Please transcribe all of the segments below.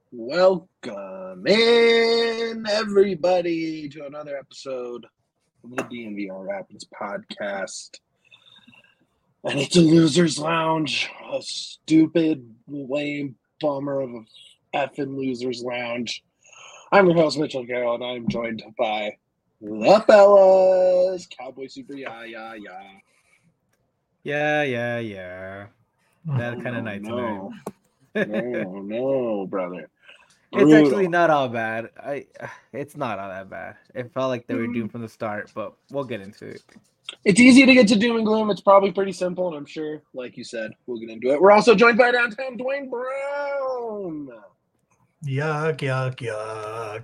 Welcome in, everybody, to another episode of the DNVR Rapids podcast. And it's a loser's lounge, a stupid, lame bummer of a effing loser's lounge. I'm your host, Mitchell Carroll, and I'm joined by the fellas, Cowboy Super Yeah. That kind of night No, tonight. no, brother. It's actually Brutal. not all bad. It's not all that bad. It felt like they were doomed from the start, but we'll get into it. It's easy to get to doom and gloom. It's probably pretty simple, and I'm sure, like you said, we'll get into it. We're also joined by downtown Dwayne Brown. Yuck.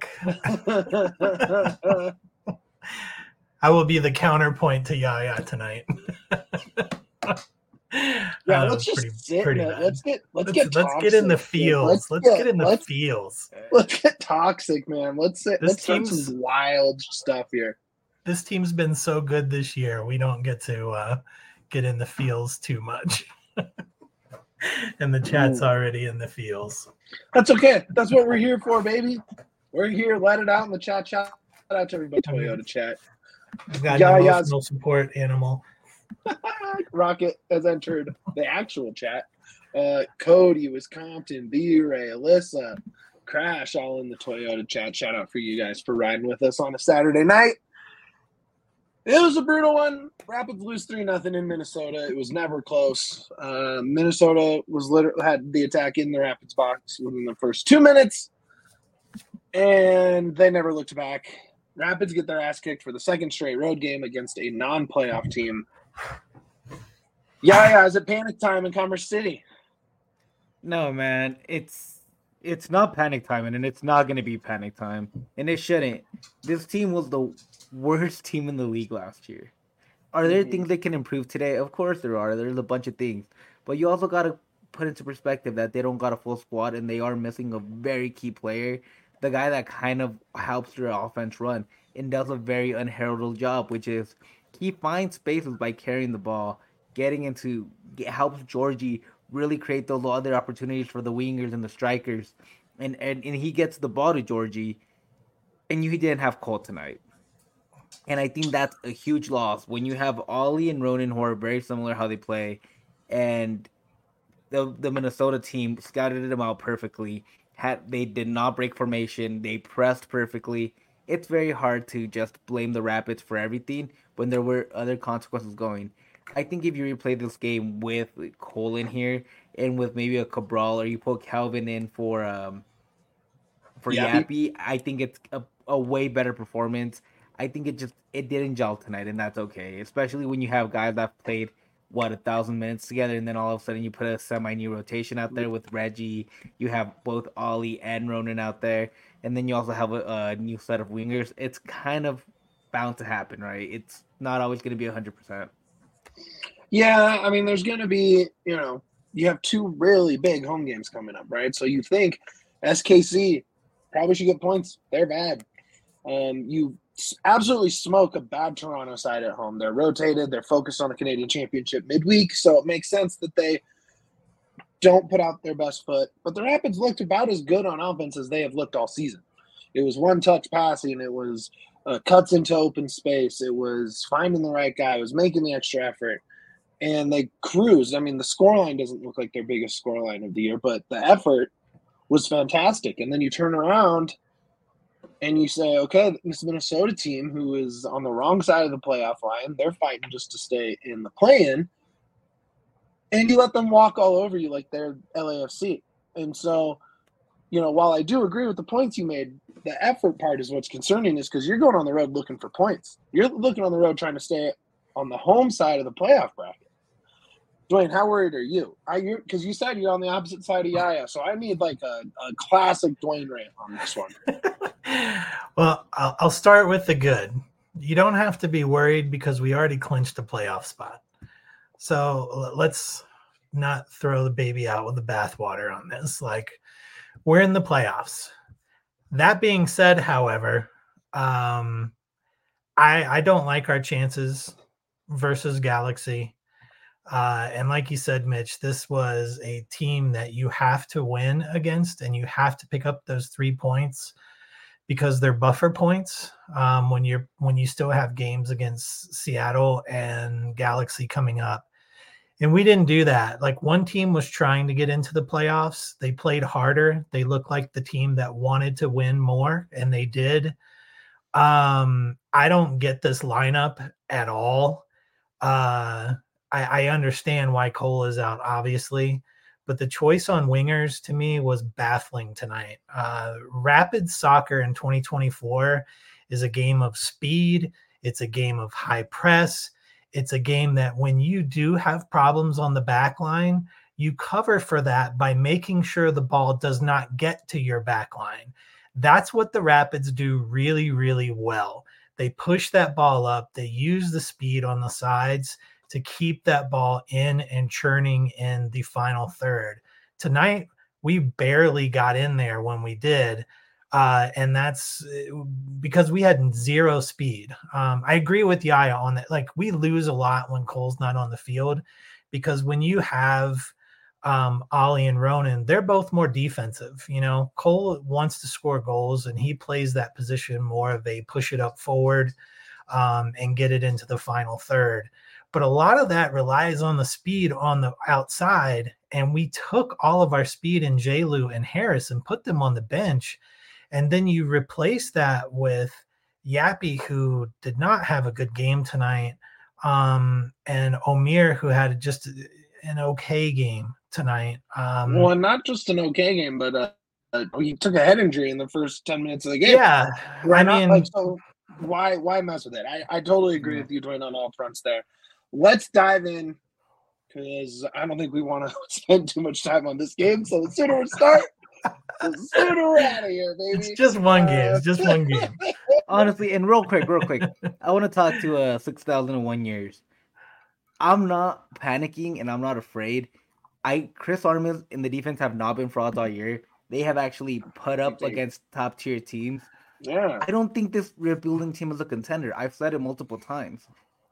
I will be the counterpoint to Yaya tonight. Yeah, let's just sit. Let's get in the feels. Let's get in the feels. Let's get toxic, man. Let's start some wild stuff here. This team's been so good this year. We don't get to get in the feels too much. And the chat's already in the feels. That's okay. That's what we're here for, baby. We're here. Let it out in the chat. Shout out to everybody. Toyota chat. We've got an emotional support animal. Rocket has entered the actual chat. Cody, Wisconsin, B-Ray, Alyssa, Crash, all in the Toyota chat. Shout out for you guys for riding with us on a Saturday night. It was a brutal one. Rapids lose 3-0 in Minnesota. It was never close. Minnesota had the attack in the Rapids box within the first 2 minutes, and they never looked back. Rapids get their ass kicked for the second straight road game against a non-playoff team. Yeah, is it panic time in Commerce City? No, man. It's not panic time, and it's not going to be panic time, and it shouldn't. This team was the worst team in the league last year. Are there things they can improve today? Of course there are. There's a bunch of things. But you also got to put into perspective that they don't got a full squad, and they are missing a very key player, the guy that kind of helps their offense run and does a very unheralded job, which is he finds spaces by carrying the ball, helps Georgie really create those other opportunities for the wingers and the strikers, and he gets the ball to Georgie, and he didn't have Cole tonight. And I think that's a huge loss when you have Ollie and Ronan, who are very similar how they play, and the Minnesota team scouted them out perfectly. They did not break formation. They pressed perfectly. It's very hard to just blame the Rapids for everything when there were other consequences going. I think if you replay this game with Cole in here and with maybe a Cabral, or you put Calvin in for Yappy, I think it's a way better performance. I think it didn't gel tonight, and that's okay. Especially when you have guys that played 1,000 minutes together, and then all of a sudden you put a semi-new rotation out there with Reggie. You have both Ollie and Ronan out there, and then you also have a new set of wingers. It's kind of bound to happen, right? It's not always going to be 100%. Yeah, I mean, there's going to be, you have two really big home games coming up, right? So you think SKC probably should get points. They're bad. You absolutely smoke a bad Toronto side at home. They're rotated. They're focused on the Canadian Championship midweek, so it makes sense that they don't put out their best foot. But the Rapids looked about as good on offense as they have looked all season. It was one-touch passing. It was cuts into open space. It was finding the right guy. It was making the extra effort. And they cruised. I mean, the scoreline doesn't look like their biggest scoreline of the year, but the effort was fantastic. And then you turn around and you say, okay, this Minnesota team, who is on the wrong side of the playoff line, they're fighting just to stay in the play-in, and you let them walk all over you like they're LAFC. And so, while I do agree with the points you made, the effort part is what's concerning, is because you're going on the road looking for points. You're looking on the road trying to stay on the home side of the playoff bracket. Dwayne, how worried are you? Because you said you're on the opposite side of Yaya, so I need like a classic Dwayne rant on this one. Well, I'll start with the good. You don't have to be worried because we already clinched a playoff spot. So let's not throw the baby out with the bathwater on this. Like, we're in the playoffs. That being said, however, I don't like our chances versus Galaxy. And like you said, Mitch, this was a team that you have to win against, and you have to pick up those 3 points because they're buffer points when you still have games against Seattle and Galaxy coming up. And we didn't do that. Like, one team was trying to get into the playoffs. They played harder. They looked like the team that wanted to win more, and they did. I don't get this lineup at all. I understand why Cole is out, obviously, but the choice on wingers to me was baffling tonight. Rapid soccer in 2024 is a game of speed. It's a game of high press. It's a game that when you do have problems on the back line, you cover for that by making sure the ball does not get to your back line. That's what the Rapids do really, really well. They push that ball up. They use the speed on the sides to keep that ball in and churning in the final third. Tonight, we barely got in there when we did, and that's because we had zero speed. I agree with Yaya on that. Like, we lose a lot when Cole's not on the field, because when you have Ollie and Ronan, they're both more defensive. You know, Cole wants to score goals, and he plays that position more of a push it up forward and get it into the final third. But a lot of that relies on the speed on the outside, and we took all of our speed in J-Lu and Harris and put them on the bench. And then you replace that with Yappy, who did not have a good game tonight, and Omir, who had just an okay game tonight. Well, not just an okay game, but he took a head injury in the first 10 minutes of the game. Yeah, so why mess with it? I totally agree with you, Dwayne, on all fronts there. Let's dive in, because I don't think we want to spend too much time on this game. So the sooner we start, the sooner we're out of here, baby. It's just one game. It's just one game. Honestly, and real quick, I want to talk to 6,001 years. I'm not panicking and I'm not afraid. Chris Armas in the defense have not been frauds all year. They have actually put up against top tier teams. Yeah. I don't think this rebuilding team is a contender. I've said it multiple times.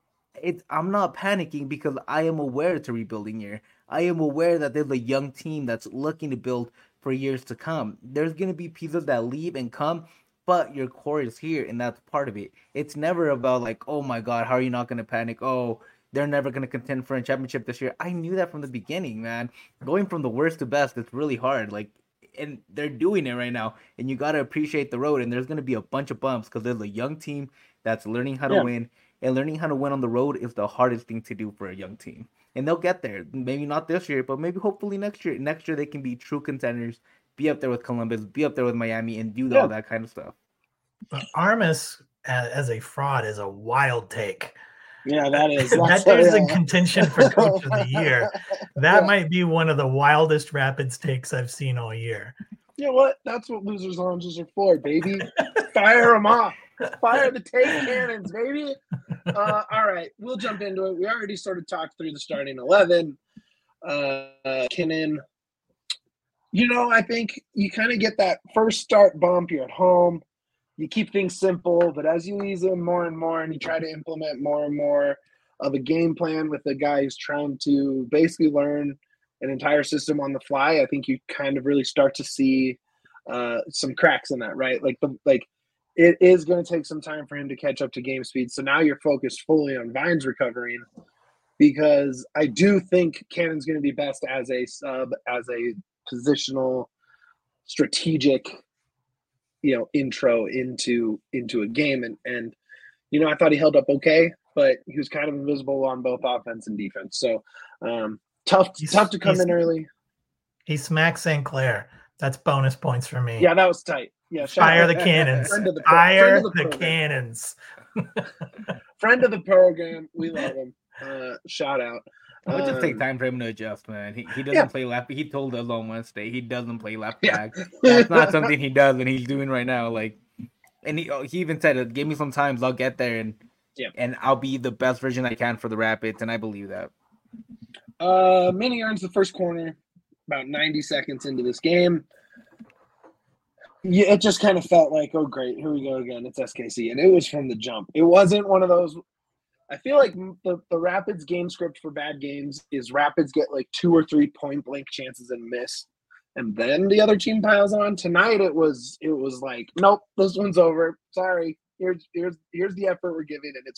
I'm not panicking because I am aware it's a rebuilding year. I am aware that there's a young team that's looking to build for years to come. There's going to be pieces that leave and come, but your core is here, and that's part of it. It's never about like, oh my God, how are you not going to panic? Oh, they're never going to contend for a championship this year. I knew that from the beginning, man. Going from the worst to best, it's really hard. Like, and they're doing it right now, and you got to appreciate the road, and there's going to be a bunch of bumps because there's a young team that's learning how to win. And learning how to win on the road is the hardest thing to do for a young team. And they'll get there. Maybe not this year, but maybe hopefully next year. Next year they can be true contenders, be up there with Columbus, be up there with Miami, and do all that kind of stuff. But Armas as a fraud is a wild take. Yeah, that is. That dude's in contention for Coach of the Year. That might be one of the wildest Rapids takes I've seen all year. You know what? That's what losers' lounges are for, baby. Fire them off. Fire the take cannons, baby. All right, we'll jump into it. We already sort of talked through the starting 11. Kinnan, I think you kind of get that first start bump. You're at home. You keep things simple, but as you ease in more and more and you try to implement more and more of a game plan with a guy who's trying to basically learn an entire system on the fly, I think you kind of really start to see some cracks in that, right? It is going to take some time for him to catch up to game speed. So now you're focused fully on Vines recovering, because I do think Cannon's going to be best as a sub, as a positional, strategic, intro into a game. And I thought he held up okay, but he was kind of invisible on both offense and defense. So tough to come in early. He smacked St. Clair. That's bonus points for me. Yeah, that was tight. Yeah, fire the cannons. Fire the cannons. Friend of the program. We love him. Shout out. It would just take time for him to adjust, man. He doesn't play left. He told us on Wednesday he doesn't play left back. That's not something he does, and he's doing right now. And he even said, "Give me some time, I'll get there, and I'll be the best version I can for the Rapids," and I believe that. Mini earns the first corner about 90 seconds into this game. Yeah, it just kind of felt like, oh, great, here we go again. It's SKC. And it was from the jump. It wasn't one of those, I feel like the Rapids game script for bad games is Rapids get like 2 or 3 point blank chances and miss, and then the other team piles on. Tonight it was like, nope, this one's over. Sorry, here's the effort we're giving, and it's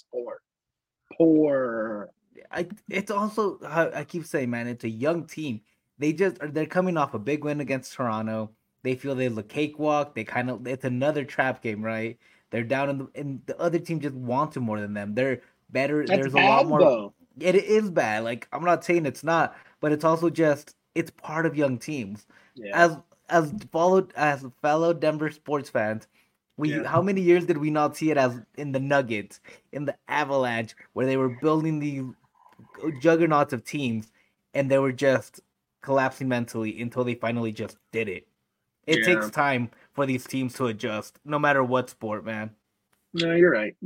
poor. It's also, I keep saying, man, it's a young team. They're coming off a big win against Toronto. They feel they look cakewalk. It's another trap game, right? They're down and the other team just wants it more than them. They're better. That's There's bad, a lot more. Though. It is bad. Like, I'm not saying it's not, but it's also just, it's part of young teams. Yeah. As fellow Denver sports fans, how many years did we not see it as in the Nuggets, in the Avalanche, where they were building these juggernauts of teams and they were just collapsing mentally until they finally just did it. It takes time for these teams to adjust, no matter what sport, man. No, you're right.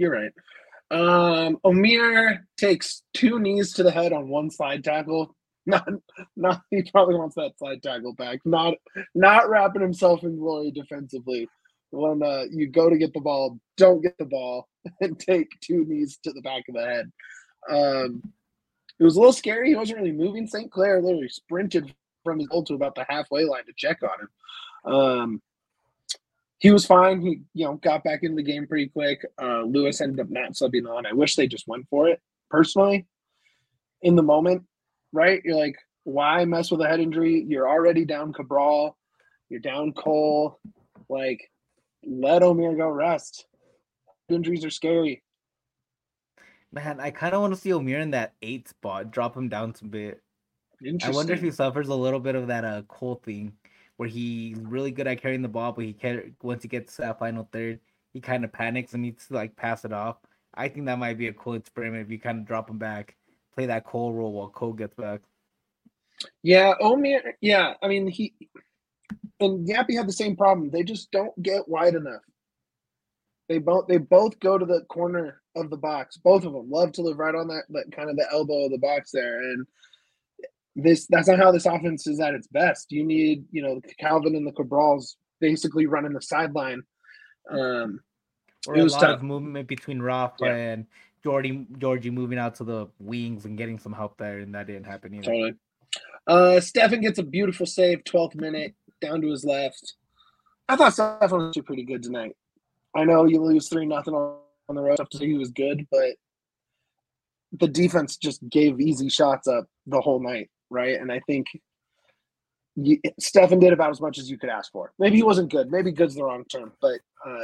Omier takes 2 knees to the head on 1 slide tackle. Not he probably wants that slide tackle back. Not wrapping himself in glory defensively. When you go to get the ball, don't get the ball and take 2 knees to the back of the head. It was a little scary. He wasn't really moving. St. Clair literally sprinted from his goal to about the halfway line to check on him. He was fine. He, got back into the game pretty quick. Lewis ended up not subbing on. I wish they just went for it, personally, in the moment, right? You're like, why mess with a head injury? You're already down Cabral. You're down Cole. Like, let Omier go rest. Injuries are scary. Man, I kind of want to see Omier in that 8 spot, drop him down a bit. I wonder if he suffers a little bit of that Cole thing, where he's really good at carrying the ball, but once he gets to that final third, he kind of panics and needs to like pass it off. I think that might be a cool experiment if you kind of drop him back, play that Cole role while Cole gets back. Yeah, Omier. Yeah, I mean he and Yappy had the same problem. They just don't get wide enough. They both go to the corner of the box. Both of them love to live right on that kind of the elbow of the box there, and that's not how this offense is at its best. You need, Calvin and the Cabrals basically running the sideline. Or a lot of movement between Rafa and Georgie moving out to the wings and getting some help there, and that didn't happen either. Totally. Stefan gets a beautiful save, 12th minute, down to his left. I thought Stefan was pretty good tonight. I know you lose 3-0 on the road, to say he was good, but the defense just gave easy shots up the whole night, right? And I think Stefan did about as much as you could ask for. Maybe he wasn't good. Maybe good's the wrong term, but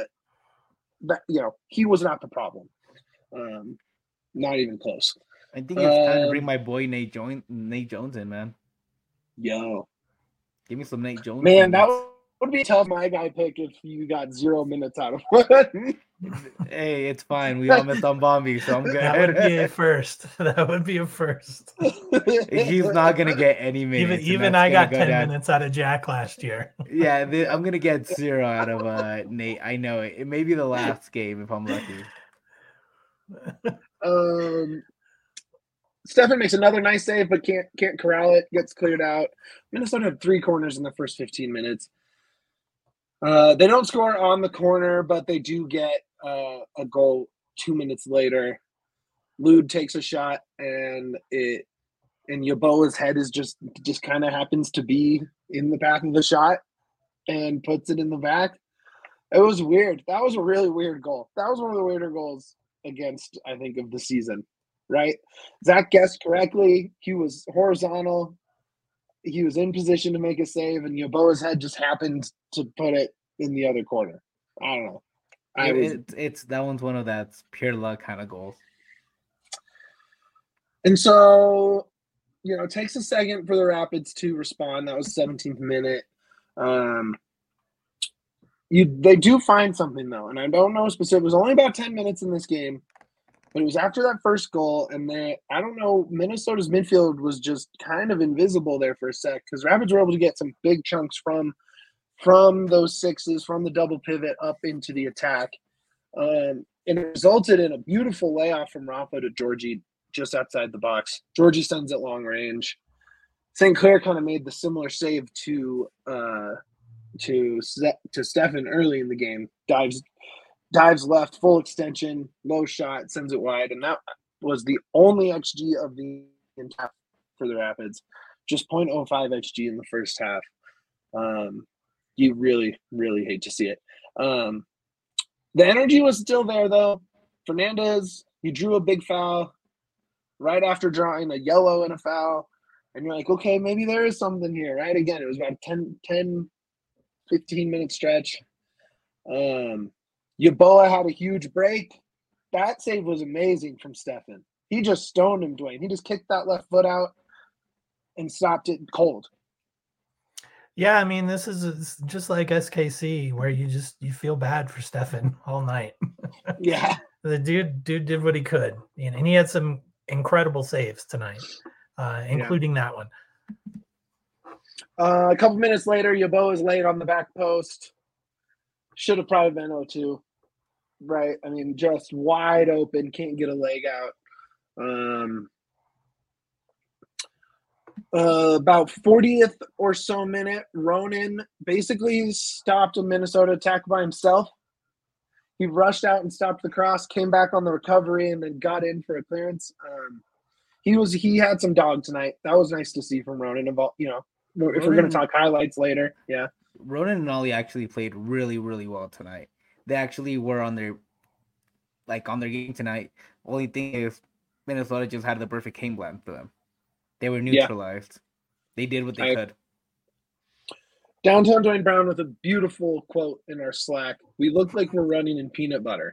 he was not the problem. Not even close. I think it's time to bring my boy Nate Jones in, man. Yo, give me some Nate Jones. Man, that would be a tough my guy pick if you got 0 minutes out of one. Hey, it's fine. We all missed on Bombi, so I'm good. That would be a first. That would be a first. He's not gonna get any minutes. Even I got 10 minutes out of Jack last year. Yeah, I'm gonna get 0 out of Nate. I know it. It may be the last game if I'm lucky. Stefan makes another nice save, but can't corral it. Gets cleared out. Minnesota had 3 corners in the first 15 minutes. They don't score on the corner, but they do get a goal 2 minutes later. Lod takes a shot, and Yeboah's head is just kind of happens to be in the path of the shot, and puts it in the back. It was weird. That was a really weird goal. That was one of the weirder goals against, I think, of the season. Right? Zach guessed correctly. He was horizontal. He was in position to make a save, and Yeboah's head just happened to put it in the other corner. I don't know. It's that one's one of that pure luck kind of goals. And so, it takes a second for the Rapids to respond. That was 17th minute. They do find something though, and I don't know specific. It was only about 10 minutes in this game. But it was after that first goal, and I don't know, Minnesota's midfield was just kind of invisible there for a sec because Rapids were able to get some big chunks from those sixes, from the double pivot up into the attack. And it resulted in a beautiful layoff from Rafa to Georgie just outside the box. Georgie sends it long range. St. Clair kind of made the similar save to Stefan early in the game. Dives left, full extension, low shot, sends it wide. And was the only XG of the entire for the Rapids, just 0.05 XG in the first half. You really, really hate to see it. The energy was still there, though. Fernandez, he drew a big foul right after drawing a yellow and a foul. And you're like, okay, maybe there is something here, right? Again, it was about 10 15-minute stretch. Yeboah had a huge break. That save was amazing from Stefan. He just stoned him, Dwayne. He just kicked that left foot out and stopped it cold. Yeah, I mean, this is just like SKC, where you feel bad for Stefan all night. Yeah. The dude did what he could, and he had some incredible saves tonight, including that one. A couple minutes later, Yeboah is laid on the back post. Should have probably been 0-2, right? I mean, just wide open, can't get a leg out. About 40th or so minute, Ronan basically stopped a Minnesota attack by himself. He rushed out and stopped the cross, came back on the recovery, and then got in for a clearance. He had some dog tonight. That was nice to see from Ronan. If we're going to talk highlights later, yeah. Ronan and Ollie actually played really, really well tonight. They actually were on their game tonight. Only thing is, Minnesota just had the perfect game plan for them. They were neutralized. Yeah. They did what they could. Downtown Dwayne Brown with a beautiful quote in our Slack. We look like we're running in peanut butter.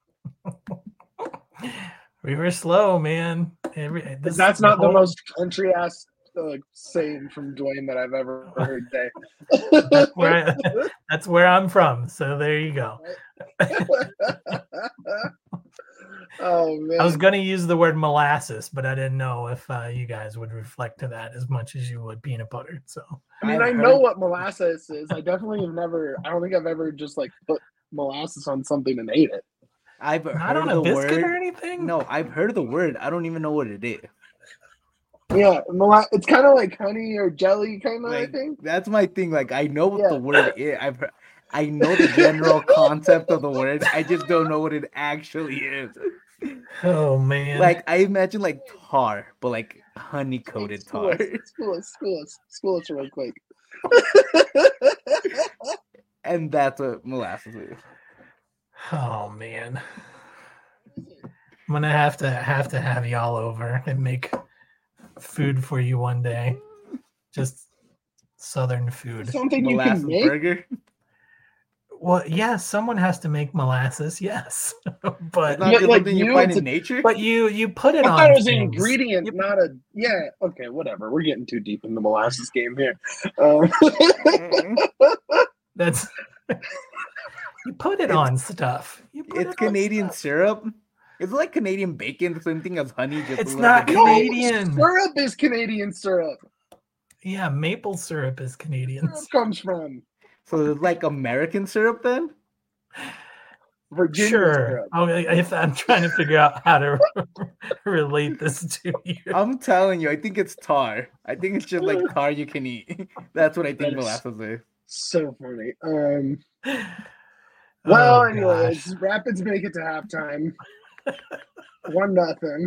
We were slow, man. That's not the most country-ass saying from Dwayne that I've ever heard today. That's where I'm from. So there you go. Oh man! I was going to use the word molasses, but I didn't know if you guys would reflect to that as much as you would peanut butter. So I mean, I know what molasses is. I definitely have never. I don't think I've ever just put molasses on something and ate it. I've not heard on the a biscuit word or anything. No, I've heard the word. I don't even know what it is. Yeah, it's kind of like honey or jelly, kind of. I think that's my thing. I know what the word is. I know the general concept of the word. I just don't know what it actually is. Oh man! I imagine tar, but honey coated tar. School us real quick. And that's what molasses is. Oh man! I'm gonna have to have y'all over and make food for you one day. Just Southern food. Something molasses you can make? Burger. Well, yes, someone has to make molasses, yes. But it's not just something you find in nature. But you put it on. I thought it was an ingredient, not a. Yeah, okay, whatever. We're getting too deep in the molasses game here. That's you put it on stuff. It's Canadian syrup. It's like Canadian bacon, the same thing as honey. Just it's not Canadian. Syrup is Canadian syrup. Yeah, maple syrup is Canadian. Where it comes from. So it's like American syrup then? Virginia syrup. If I'm trying to figure out how to relate this to you. I'm telling you, I think it's tar. I think it's just tar you can eat. That's what I think molasses is. So funny. Well, anyways, Rapids make it to halftime. 1-0.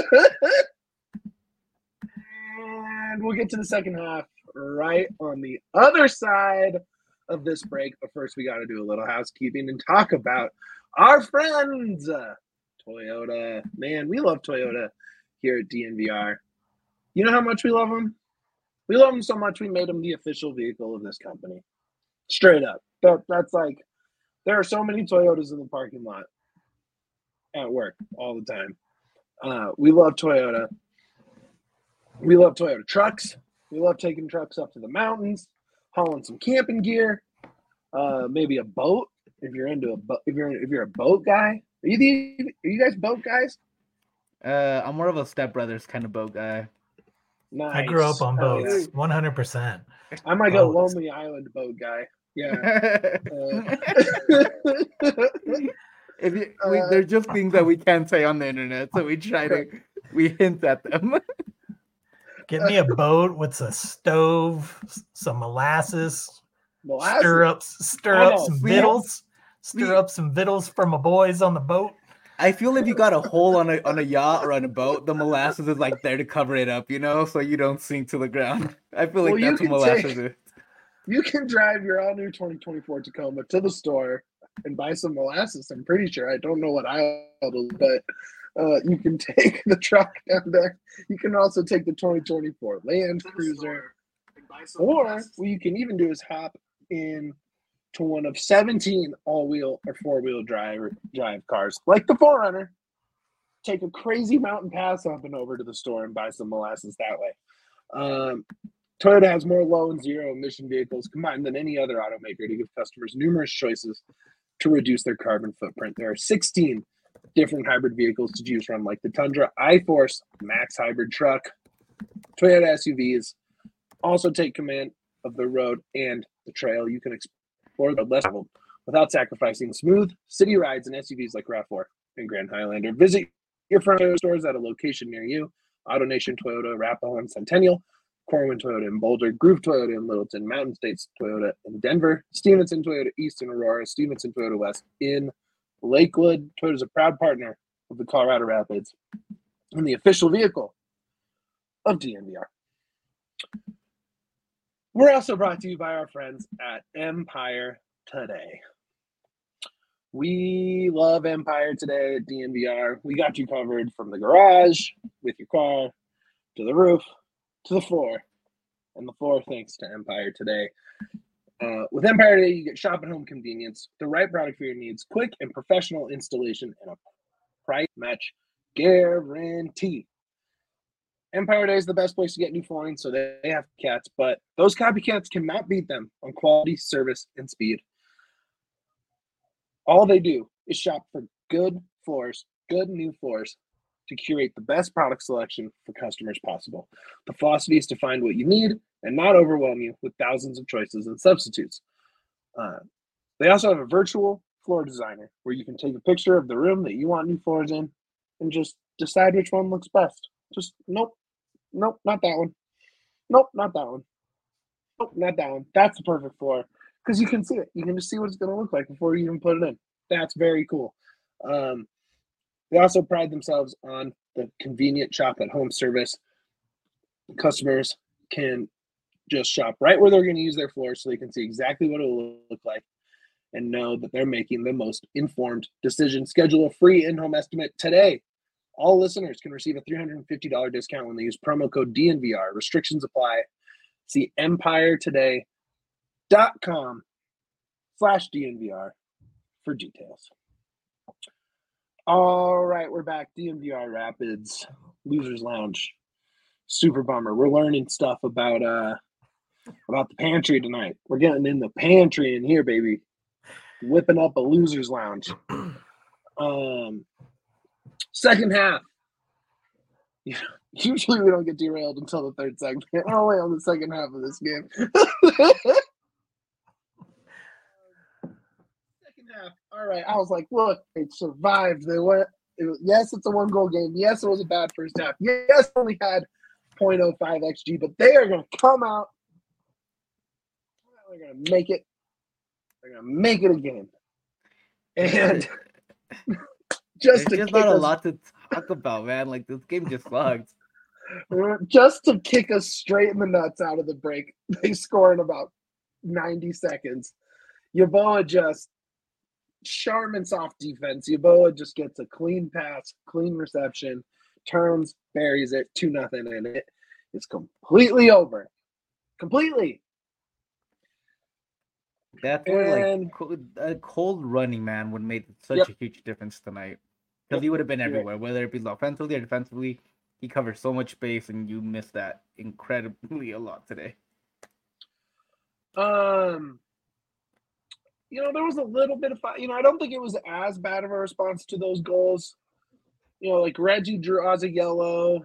And we'll get to the second half right on the other side of this break. But first, we got to do a little housekeeping and talk about our friends, Toyota. Man, we love Toyota here at DNVR. You know how much we love them? We love them so much we made them the official vehicle of this company. Straight up. That's there are so many Toyotas in the parking lot at work all the time. We love Toyota. We love Toyota trucks. We love taking trucks up to the mountains, hauling some camping gear, maybe a boat. If you're into a boat, if you're a boat guy, are you guys boat guys? I'm more of a Step Brothers kind of boat guy. Nice. I grew up on boats, 100%. I'm like a Lonely Island boat guy. Yeah. They're just things that we can't say on the internet, so we hint at them. Get me a boat with a stove, some molasses. Stir up some victuals. Stir up some victuals for my boys on the boat. I feel if you got a hole on a yacht or on a boat, the molasses is like there to cover it up, so you don't sink to the ground. I feel like Well, that's what molasses is. you can drive your all new 2024 Tacoma to the store and buy some molasses. I'm pretty sure. I don't know what aisle, but you can take the truck down there. You can also take the 2024 Land Cruiser, or what you can even do is hop in to one of 17 all-wheel or four-wheel drive cars, like the 4Runner. Take a crazy mountain pass up and over to the store and buy some molasses that way. Toyota has more low and zero emission vehicles combined than any other automaker to give customers numerous choices to reduce their carbon footprint. There are 16 different hybrid vehicles to choose from, like the Tundra, iForce, Max hybrid truck, Toyota SUVs. Also take command of the road and the trail. You can explore the less traveled without sacrificing smooth city rides and SUVs like RAV4 and Grand Highlander. Visit your Toyota stores at a location near you. AutoNation Toyota, Arapahoe and Centennial, Corwin Toyota in Boulder, Groove Toyota in Littleton, Mountain States Toyota in Denver, Stevenson Toyota East in Aurora, Stevenson Toyota West in Lakewood. Toyota is a proud partner of the Colorado Rapids and the official vehicle of DNVR. We're also brought to you by our friends at Empire Today. We love Empire Today at DNVR. We got you covered from the garage with your car to the roof to the floor, and the floor thanks to Empire Today. With Empire Today, you get shop and home convenience, the right product for your needs, quick and professional installation, and a price match guarantee. Empire Day is the best place to get new flooring, so they have cats, but those copycats cannot beat them on quality, service, and speed. All they do is shop for good floors, good new floors, to curate the best product selection for customers possible. The philosophy is to find what you need and not overwhelm you with thousands of choices and substitutes. They also have a virtual floor designer where you can take a picture of the room that you want new floors in and just decide which one looks best. Just, nope, not that one. Nope, not that one. Nope, not that one. That's the perfect floor because you can see it. You can just see what it's going to look like before you even put it in. That's very cool. They also pride themselves on the convenient shop at home service. Customers can just shop right where they're going to use their floor so they can see exactly what it will look like and know that they're making the most informed decision. Schedule a free in-home estimate today. All listeners can receive a $350 discount when they use promo code DNVR. Restrictions apply. See empiretoday.com/DNVR for details. All right, we're back. DNVR Rapids, Losers Lounge. Super bummer. We're learning stuff about the pantry tonight. We're getting in the pantry in here, baby. Whipping up a Losers Lounge. Second half. Usually we don't get derailed until the third segment. Only on the second half of this game. All right, I was like, look, they survived. They went. Yes, it's a one-goal game. Yes, it was a bad first half. Yes, only had 0.05 XG, but they are going to come out. They're going to make it. They're going to make it again. And there's just not a lot to talk about, man. Like, this game just sucks. Just to kick us straight in the nuts out of the break, they score in about 90 seconds. Yeboah just Sharman soft defense. Yeboah just gets a clean pass, clean reception, turns, buries it, 2-0, and it is completely over. Completely. That's where a cold running man would make such a huge difference tonight. Because he would have been everywhere, whether it be offensively or defensively. He covers so much space, and you missed that incredibly a lot today. There was a little bit of, I don't think it was as bad of a response to those goals. Like Reggie draws a yellow.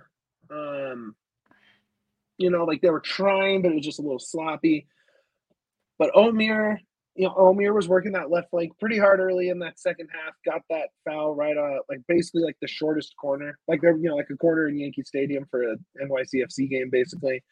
Like they were trying, but it was just a little sloppy. But Omir was working that left flank pretty hard early in that second half. Got that foul right basically like the shortest corner, like they're like a corner in Yankee Stadium for an NYCFC game, basically.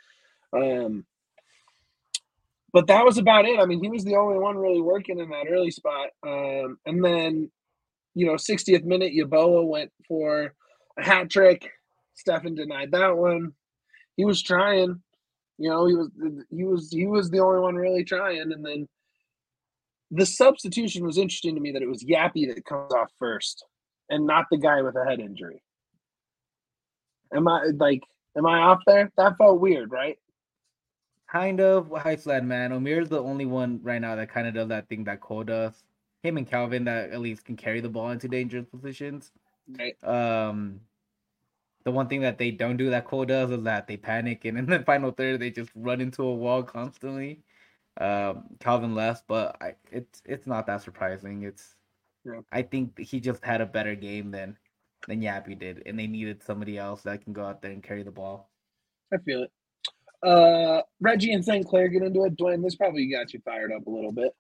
But that was about it. I mean, he was the only one really working in that early spot. And then 60th minute, Yeboah went for a hat trick. Stefan denied that one. He was trying. He was the only one really trying. And then the substitution was interesting to me that it was Yappy that comes off first and not the guy with a head injury. Am I off there? That felt weird, right? Kind of. Hi, Sled, man. Omir's the only one right now that kind of does that thing that Cole does. Him and Calvin that at least can carry the ball into dangerous positions. Right. The one thing that they don't do that Cole does is that they panic, and in the final third they just run into a wall constantly. Calvin left, but it's not that surprising. I think he just had a better game than Yappy did, and they needed somebody else that can go out there and carry the ball. I feel it. Reggie and St. Clair get into it. Dwayne, this probably got you fired up a little bit.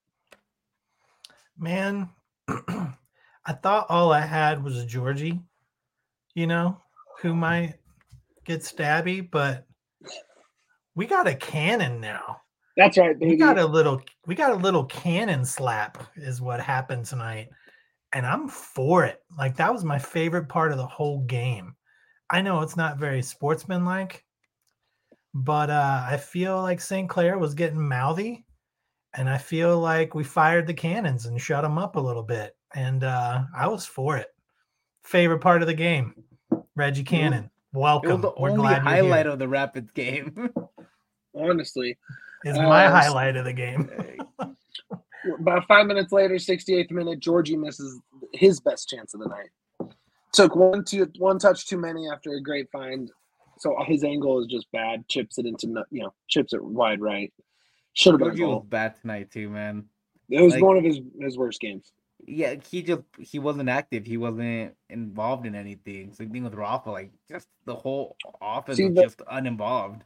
Man, I thought all I had was Georgie, who might get stabby, but we got a cannon now. That's right, baby. We got a little cannon slap is what happened tonight. And I'm for it. Like, that was my favorite part of the whole game. I know it's not very sportsmanlike, but I feel like St. Clair was getting mouthy, and I feel like we fired the cannons and shut them up a little bit. And I was for it. Favorite part of the game, Reggie Cannon. Welcome. It was the only highlight of the Rapids game. Honestly. Is my highlight of the game. About 5 minutes later, 68th minute, Georgie misses his best chance of the night. Took one touch too many after a great find. So his angle is just bad. Chips it wide right. Should have been a goal. Was bad tonight too, man. It was one of his worst games. Yeah, he wasn't active. He wasn't involved in anything. Same thing with Rafa. Like, just the whole offense was just uninvolved.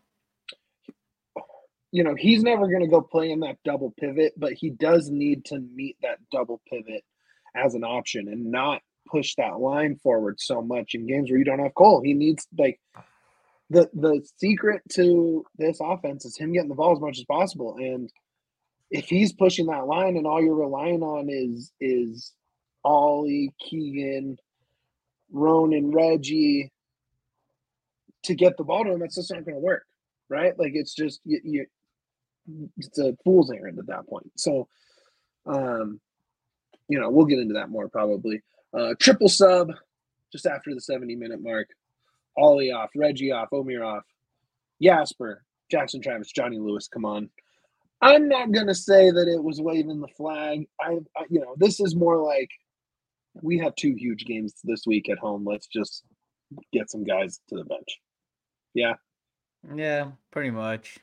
He's never going to go play in that double pivot, but he does need to meet that double pivot as an option and not push that line forward so much in games where you don't have Cole. He needs, the secret to this offense is him getting the ball as much as possible. And if he's pushing that line and all you're relying on is Ollie, Keegan, Ronan, Reggie to get the ball to him, that's just not going to work, right? Like, it's just it's a fool's errand at that point. So, we'll get into that more probably. Triple sub just after the 70-minute mark. Ollie off, Reggie off, Omir off, Jasper, Jackson Travis, Johnny Lewis. Come on. I'm not going to say that it was waving the flag. This is more like we have 2 huge games this week at home. Let's just get some guys to the bench. Yeah. Yeah, pretty much.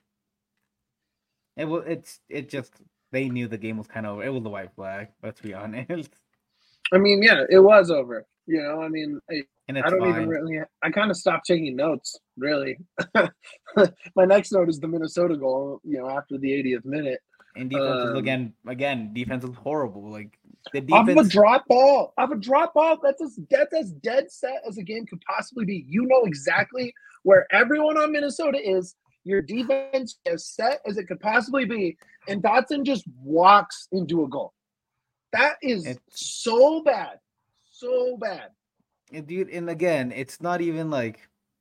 It just they knew the game was kind of over. It was the white flag. Let's be honest. I mean, yeah, it was over. I don't even really. I kind of stopped taking notes. Really, my next note is the Minnesota goal. After the 80th minute. And defense again. Defense is horrible. Like, the defense. I have a drop ball. That's as dead set as a game could possibly be. You know exactly where everyone on Minnesota is. Your defense as set as it could possibly be, and Dotson just walks into a goal. That is so bad. So bad. Dude, and again, it's not even like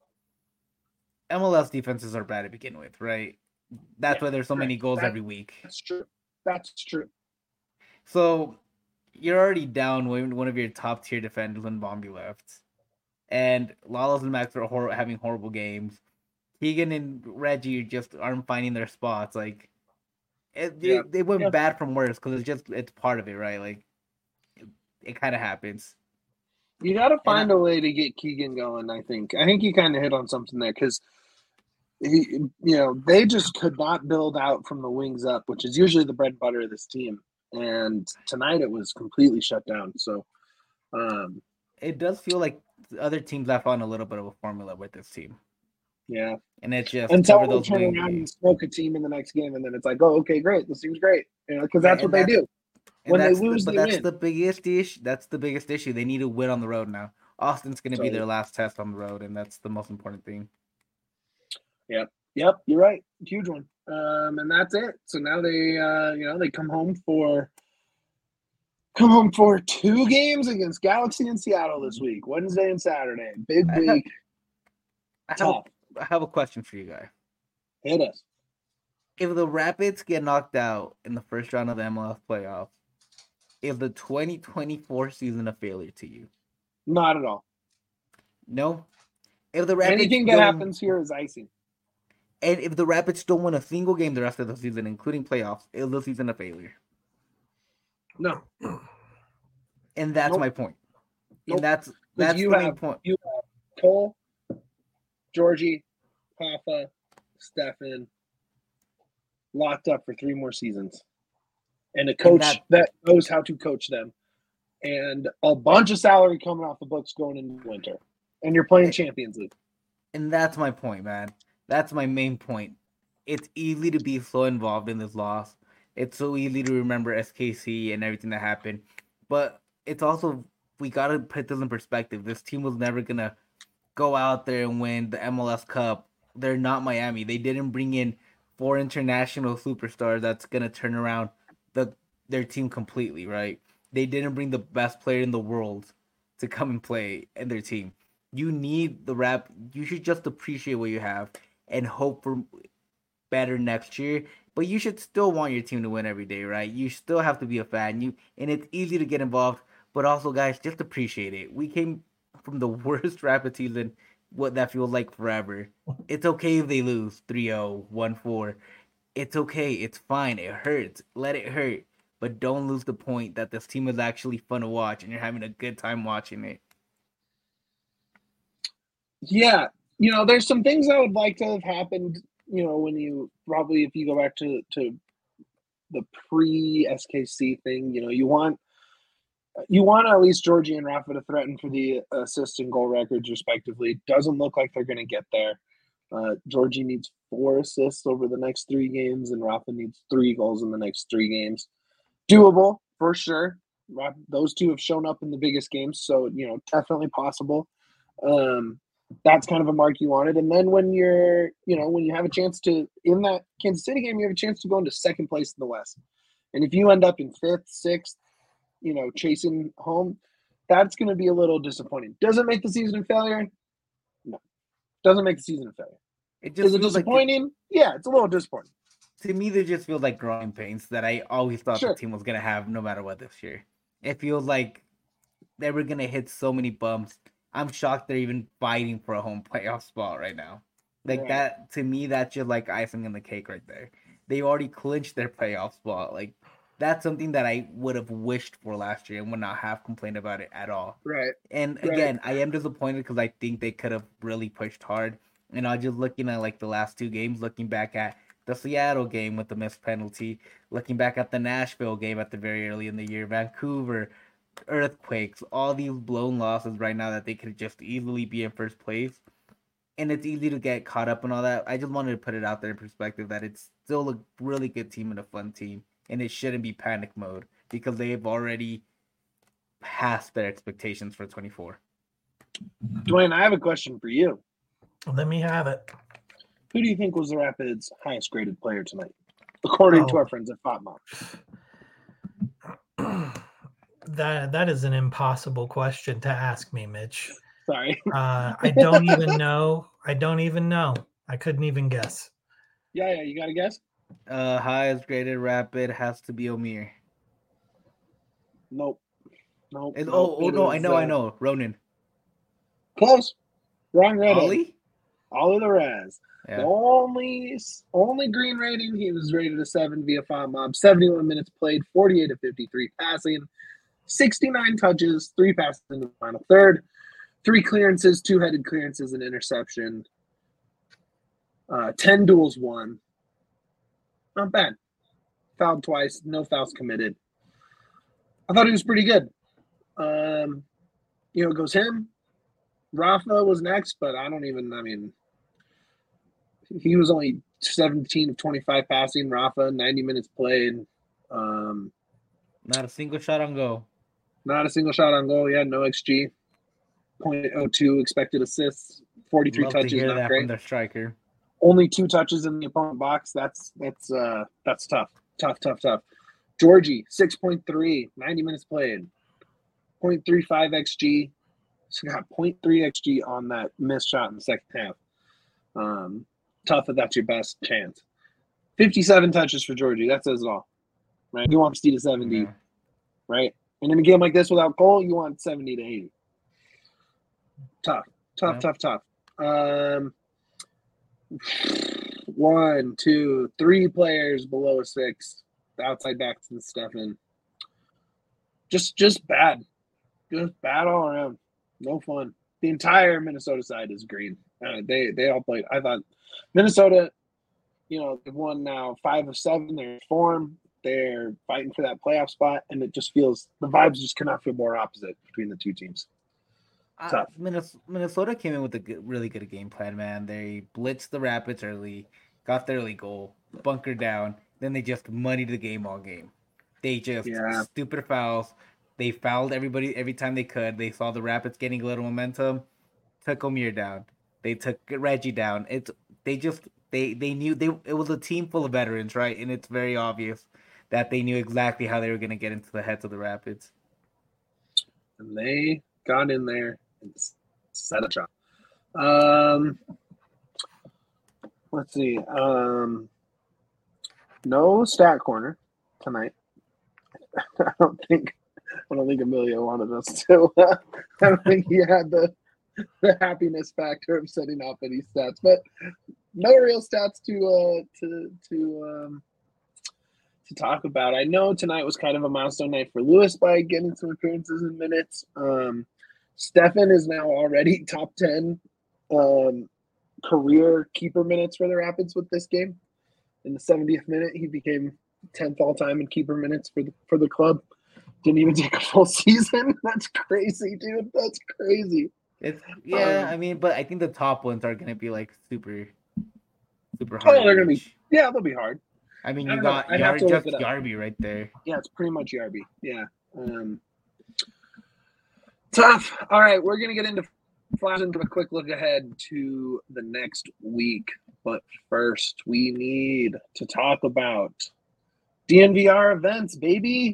MLS defenses are bad to begin with, right? That's why there's so many goals every week. That's true. So you're already down when one of your top tier defenders when Bombi left. And Lalas and Max are having horrible games. Keegan and Reggie just aren't finding their spots. Like, they went bad from worse because it's part of it, right? Like, it kind of happens. You got to find a way to get Keegan going. I think you kind of hit on something there because they just could not build out from the wings up, which is usually the bread and butter of this team. And tonight it was completely shut down. So it does feel like the other teams left on a little bit of a formula with this team. Yeah. And it's just until they turn around and smoke a team in the next game, and then it's like, oh, okay, great, this seems great, because that's what they do. When they lose, that's the biggest issue. That's the biggest issue. They need to win on the road now. Austin's going to be their last test on the road, and that's the most important thing. Yep, you're right. Huge one. And that's it. So now they, they come home for come home for 2 games against Galaxy and Seattle this week, Wednesday and Saturday. Big week. I have a question for you guys. Hit us. If the Rapids get knocked out in the first round of the MLS playoffs, is the 2024 season a failure to you? Not at all. No? If the Rapids Anything that happens here is icing. And if the Rapids don't win a single game the rest of the season, including playoffs, is the season a failure? No. And that's my point. Nope. And that's the main point. You have Cole, Georgie, Hoffa, Stefan locked up for 3 more seasons. And a coach that knows how to coach them. And a bunch of salary coming off the books going into winter. And you're playing Champions League. And that's my point, man. That's my main point. It's easy to be so involved in this loss. It's so easy to remember SKC and everything that happened. But it's also, we got to put this in perspective. This team was never going to go out there and win the MLS Cup. They're not Miami. They didn't bring in 4 international superstars that's going to turn around their team completely, right? They didn't bring the best player in the world to come and play in their team. You need you should just appreciate what you have and hope for better next year. But you should still want your team to win every day, right? You still have to be a fan. And it's easy to get involved, but also, guys, just appreciate it. We came from the worst Rapid season, what that feels like forever. It's okay if they lose 3-0, 1-4. It's okay. It's fine. It hurts. Let it hurt. But don't lose the point that this team is actually fun to watch and you're having a good time watching it. Yeah. There's some things I would like to have happened, when you probably, if you go back to the pre-SKC thing, you want at least Georgie and Rafa to threaten for the assist and goal records respectively. Doesn't look like they're going to get there. Georgie needs 4 assists over the next 3 games, and Rafa needs 3 goals in the next 3 games. Doable, for sure. Those 2 have shown up in the biggest games, so, definitely possible. That's kind of a mark you wanted. And then when when you have a chance to, in that Kansas City game, you have a chance to go into 2nd place in the West. And if you end up in 5th, 6th, chasing home, that's going to be a little disappointing. Does it make the season a failure? No. Doesn't make the season a failure. Is it disappointing? Yeah, it's a little disappointing. To me, they just feel like growing pains that I always thought the team was going to have no matter what this year. It feels like they were going to hit so many bumps. I'm shocked they're even fighting for a home playoff spot right now. That, to me, that's just like icing on the cake right there. They already clinched their playoff spot. Like, that's something that I would have wished for last year and would not have complained about it at all. Right. And again, I am disappointed because I think they could have really pushed hard. And I was just looking at the last 2 games, looking back at the Seattle game with the missed penalty, looking back at the Nashville game at the very early in the year, Vancouver, earthquakes, all these blown losses right now that they could just easily be in first place. And it's easy to get caught up in all that. I just wanted to put it out there in perspective that it's still a really good team and a fun team. And it shouldn't be panic mode because they've already passed their expectations for 24. Dwayne, I have a question for you. Let me have it. Who do you think was the Rapids' highest graded player tonight, according to our friends at FOTMOB? That is an impossible question to ask me, Mitch. Sorry. I don't even know. I couldn't even guess. Yeah, you got to guess? Highest graded Rapid has to be Omir. Nope. No, I know. Ronan. Close. Wrong redhead. Ollie? Ollie Larez. Yeah. The only green rating, he was rated a 7 via FOTMOB. 71 minutes played, 48 of 53 passing, 69 touches, 3 passes in the final third, 3 clearances, 2 headed clearances, an interception, 10 duels won. Not bad. Fouled twice, no fouls committed. I thought he was pretty good. It goes him. Rafa was next, but he was only 17 of 25 passing. Rafa, 90 minutes played. Not a single shot on goal. Not a single shot on goal. Yeah, no XG. 0.02 expected assists. 43 Love touches. to hear not that great. from their striker. Only 2 touches in the opponent box. That's tough. Tough. Georgie, 6.3, 90 minutes played. 0.35 XG. So got 0.3 XG on that missed shot in the second half. Tough if that's your best chance. 57 touches for Georgie. That says it all. Right? You want 60 to 70, Yeah. right? And in a game like this without Cole, you want 70 to 80. Tough. One, two, three players below a 6. The outside backs and Stefan. Just bad. Just bad all around. No fun. The entire Minnesota side is green. They all played. I thought Minnesota, they've won now 5 of 7. They're in form. They're fighting for that playoff spot, and it just feels the vibes just cannot feel more opposite between the two teams. Tough. Minnesota came in with a really good game plan, man. They blitzed the Rapids early, got the early goal, bunkered down, then they just muddied the game all game. They just stupid fouls. They fouled everybody every time they could. They saw the Rapids getting a little momentum, took Omir down. They took Reggie down. They knew it was a team full of veterans, right? And it's very obvious that they knew exactly how they were going to get into the heads of the Rapids. And they got in there and set a trap. Let's see. No stat corner tonight. I don't think Emilio wanted us to. I don't think he had the happiness factor of setting off any stats, but no real stats to talk about. I know tonight was kind of a milestone night for Lewis by getting some appearances and minutes. Stefan is now already top 10 career keeper minutes for the Rapids with this game. In the 70th minute, he became 10th all time in keeper minutes for the club. Didn't even take a full season. That's crazy, dude. That's crazy. I mean, but I think the top ones are gonna be like super hard. Oh, they're gonna be. Yeah, they'll be hard. I mean, you got Yarby right there. Yeah, it's pretty much Yarby. Yeah. Tough. All right, we're gonna get into flash into a quick look ahead to the next week. But first, we need to talk about DNVR events, baby.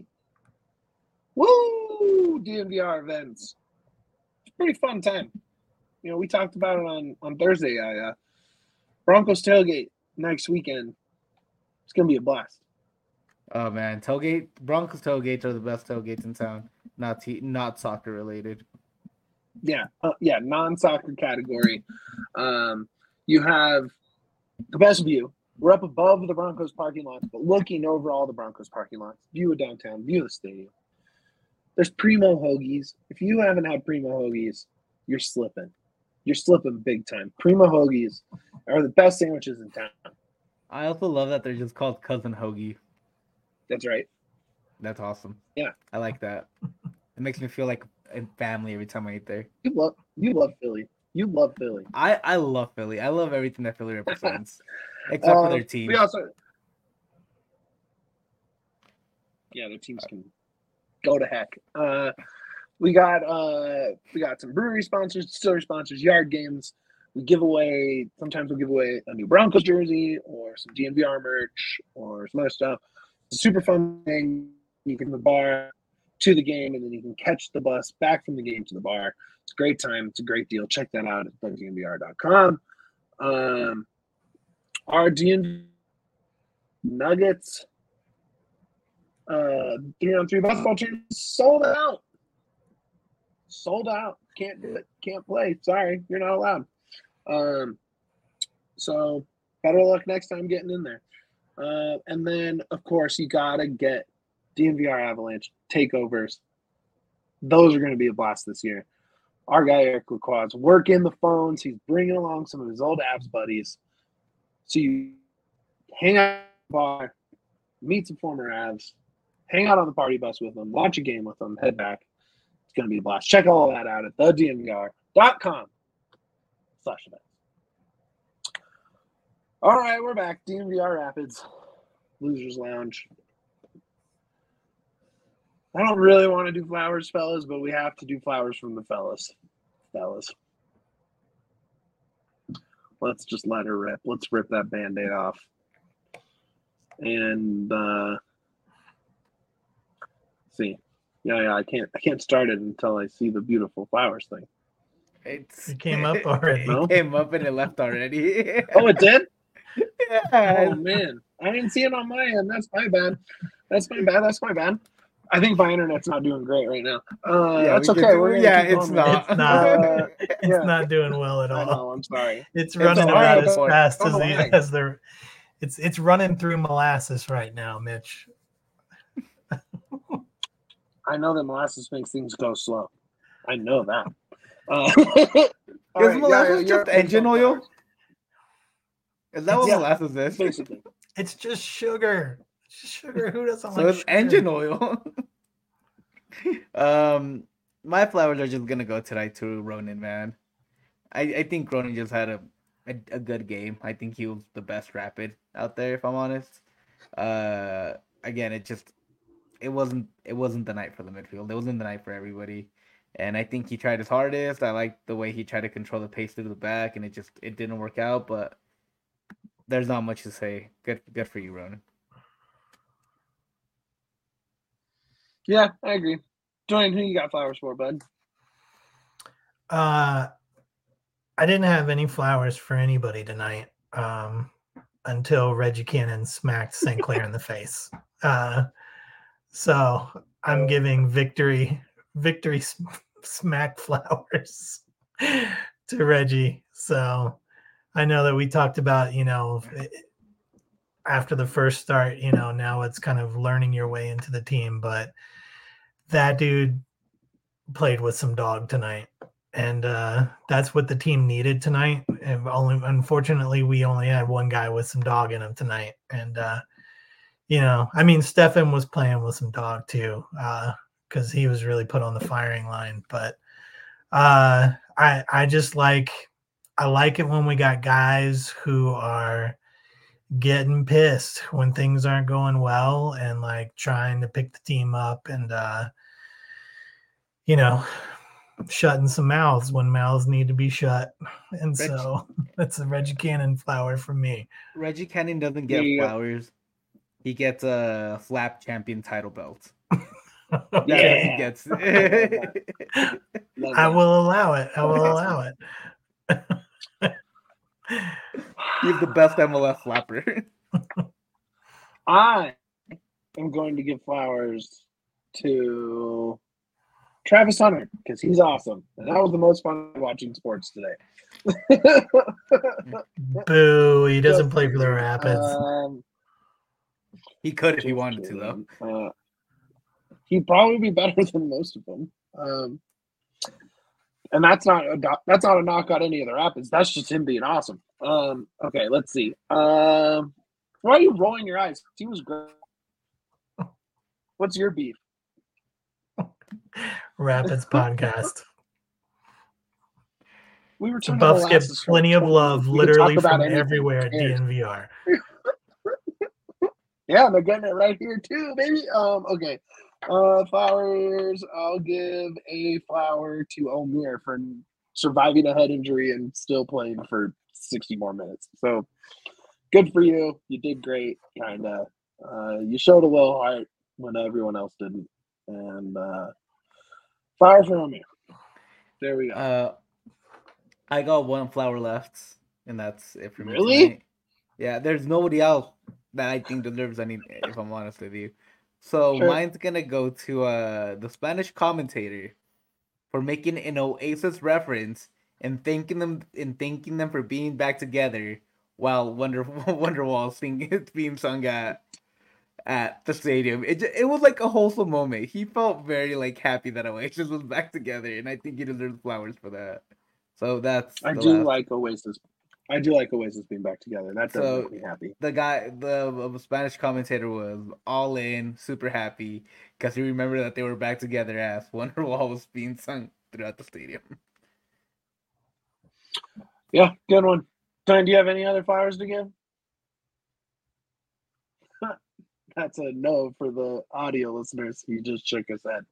Woo! DNVR events. It's a pretty fun time. We talked about it on Thursday. Broncos tailgate next weekend. It's going to be a blast. Oh, man. Broncos tailgates are the best tailgates in town. Not soccer related. Yeah, non-soccer category. You have the best view. We're up above the Broncos parking lots, but looking over all the Broncos parking lots. View of downtown, view of the stadium. There's Primo Hoagies. If you haven't had Primo Hoagies, you're slipping. You're slipping big time. Primo Hoagies are the best sandwiches in town. I also love that they're just called Cousin Hoagie. That's right. That's awesome. Yeah. I like that. It makes me feel like a family every time I eat there. You love Philly. You love Philly. I love Philly. I love everything that Philly represents. Except for their team. Their teams can go to heck. We got some brewery sponsors, distillery sponsors, yard games. Sometimes we'll give away a new Broncos jersey or some DNVR merch or some other stuff. It's a super fun thing. You can go from the bar to the game, and then you can catch the bus back from the game to the bar. It's a great time. It's a great deal. Check that out at DNVR.com. Our DNVR Nuggets 3-on-3 basketball team sold out. Can't do it. Can't play. Sorry, you're not allowed. So better luck next time getting in there. And then, of course, you gotta get DNVR Avalanche takeovers. Those are going to be a blast this year. Our guy Eric Lacroix's working the phones. He's bringing along some of his old Avs buddies. So you hang out at the bar, meet some former Avs, hang out on the party bus with them, watch a game with them, head back. It's going to be a blast. Check all that out at thednvr.com/events. All right, we're back. DNVR Rapids, Losers Lounge. I don't really want to do flowers, fellas, but we have to do flowers from the fellas. Let's just let her rip. Let's rip that Band-Aid off. And see. Yeah, I can't start it until I see the beautiful flowers thing. It came up already. No? It came up and it left already. Oh, it did? Yeah. Oh man, I didn't see it on my end. That's my bad. That's my bad. I think my internet's not doing great right now. That's okay. We're gonna yeah, keep it's going, man. It's not. Yeah. It's not doing well at I all. know. I'm sorry. It's running all right, about as boy. fast Don't as lag. it's running through molasses right now, Mitch. I know that molasses makes things go slow. I know that. Is molasses just engine oil? Is that what Yeah, molasses is? basically. It's just sugar. It's just sugar. Who doesn't So like it's sugar? engine oil. My flowers are just gonna go tonight to Ronan, man. I think Ronan just had a good game. I think he was the best rapid out there, if I'm honest. Again, it wasn't the night for the midfield. It wasn't the night for everybody. And I think he tried his hardest. I like the way he tried to control the pace through the back, and it didn't work out, but there's not much to say. Good for you, Ronan. Yeah, I agree. Dwayne, who you got flowers for, bud? I didn't have any flowers for anybody tonight until Reggie Cannon smacked St. Clair in the face. So I'm giving victory smack flowers to Reggie. So I know that we talked about, after the first start, now it's kind of learning your way into the team, but that dude played with some dog tonight. And that's what the team needed tonight. And unfortunately, we only had one guy with some dog in him tonight. And, Stefan was playing with some dog too, because he was really put on the firing line. But I like it when we got guys who are getting pissed when things aren't going well and like trying to pick the team up and, shutting some mouths when mouths need to be shut. And so that's a Reggie Cannon flower from me. Reggie Cannon doesn't get flowers. He gets a flap champion title belt. Okay. He gets. I will allow it. He's the best MLS flapper. I am going to give flowers to Travis Hunter because he's awesome. And that was the most fun watching sports today. Boo, he doesn't play for the Rapids. He could if he wanted to, though. He'd probably be better than most of them. And that's not a knock on any of the Rapids. That's just him being awesome. Okay, let's see. Why are you rolling your eyes? He was great. What's your beef? Rapids podcast. We were talking Buffs about get plenty of love literally from everywhere at DNVR. Yeah, they're getting it right here too, baby. Okay. Flowers. I'll give a flower to Omir for surviving a head injury and still playing for 60 more minutes. So good for you. You did great. Kinda. You showed a little heart when everyone else didn't. And flower for Omir. There we go. I got one flower left, and that's it for me. Really? Tonight. Yeah, there's nobody else that I think deserves any, if I'm honest with you. So Sure. Mine's gonna go to the Spanish commentator for making an Oasis reference and thanking them for being back together while Wonderwall being sung at the stadium. It was like a wholesome moment. He felt very like happy that Oasis was back together, and I think he deserves flowers for that. So that's I do like Oasis being back together. That does make me happy. The Spanish commentator was all in, super happy because he remembered that they were back together as Wonderwall was being sung throughout the stadium. Yeah, good one. Don, do you have any other flowers to give? That's a no for the audio listeners. He just shook his head.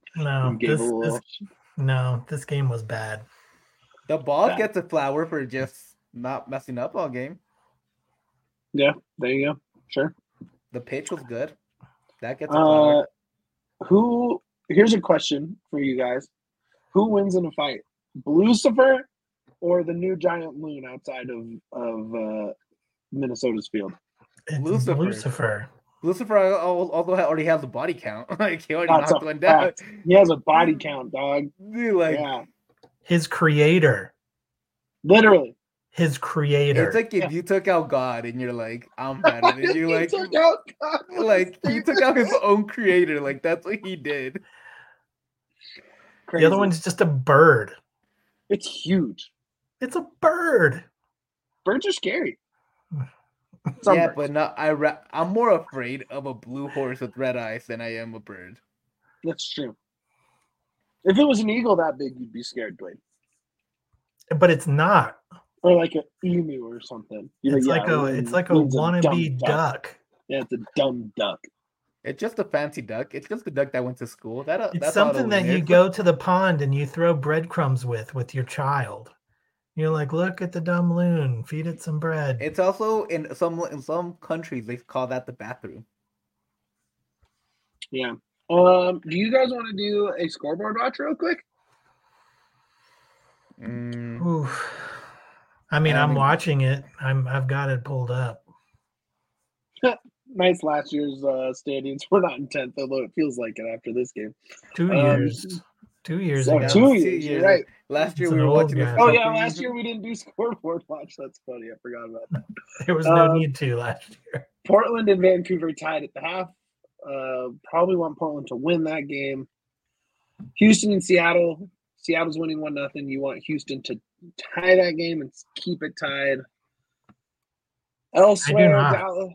This game was bad. The ball gets a flower for just not messing up all game. Yeah, there you go. Sure. The pitch was good. That gets a flower. Who here's a question for you guys: who wins in a fight, Lucifer or the new giant moon outside of Minnesota's field? It's Lucifer. Lucifer. Lucifer, although already has a body count, like he already That's knocked a one down. fact. He has a body count, dog. Dude, like Yeah, His creator. literally. His creator. it's like if you took out God and you're like, I'm better than you. He Like, took out God with like his he dick. took out his own creator. Like that's what he did. The other Crazy. one's just a bird. It's huge. It's a bird. Birds are scary. Some Yeah, birds. but not. I'm more afraid of a blue horse with red eyes than I am a bird. That's true. If it was an eagle that big, you'd be scared, Blade. But it's not. Or like an emu or something. You're It's like a Loon's wannabe dumb duck. Yeah, it's a dumb duck. It's just a fancy duck. It's just a duck that went to school. It's That's all something it that you is. go to the pond and you throw breadcrumbs with your child. You're like, look at the dumb loon, feed it some bread. It's also in some countries they call that the bathroom. Yeah. Do you guys want to do a scoreboard watch real quick? Oof. I mean, I I'm mean- watching it. I've got it pulled up. Nice last year's standings. We're not in 10th, although it feels like it after this game. 2 years. 2 years So ago. 2 years, you're right. Last year It's we an were old watching this. guy. Oh, yeah, company. last year we didn't do scoreboard watch. That's funny. I forgot about that. There was no need to last year. Portland and Vancouver tied at the half. Probably want Portland to win that game. Houston and Seattle. Seattle's winning 1-0. You want Houston to tie that game and keep it tied. Elsewhere, not. Dallas.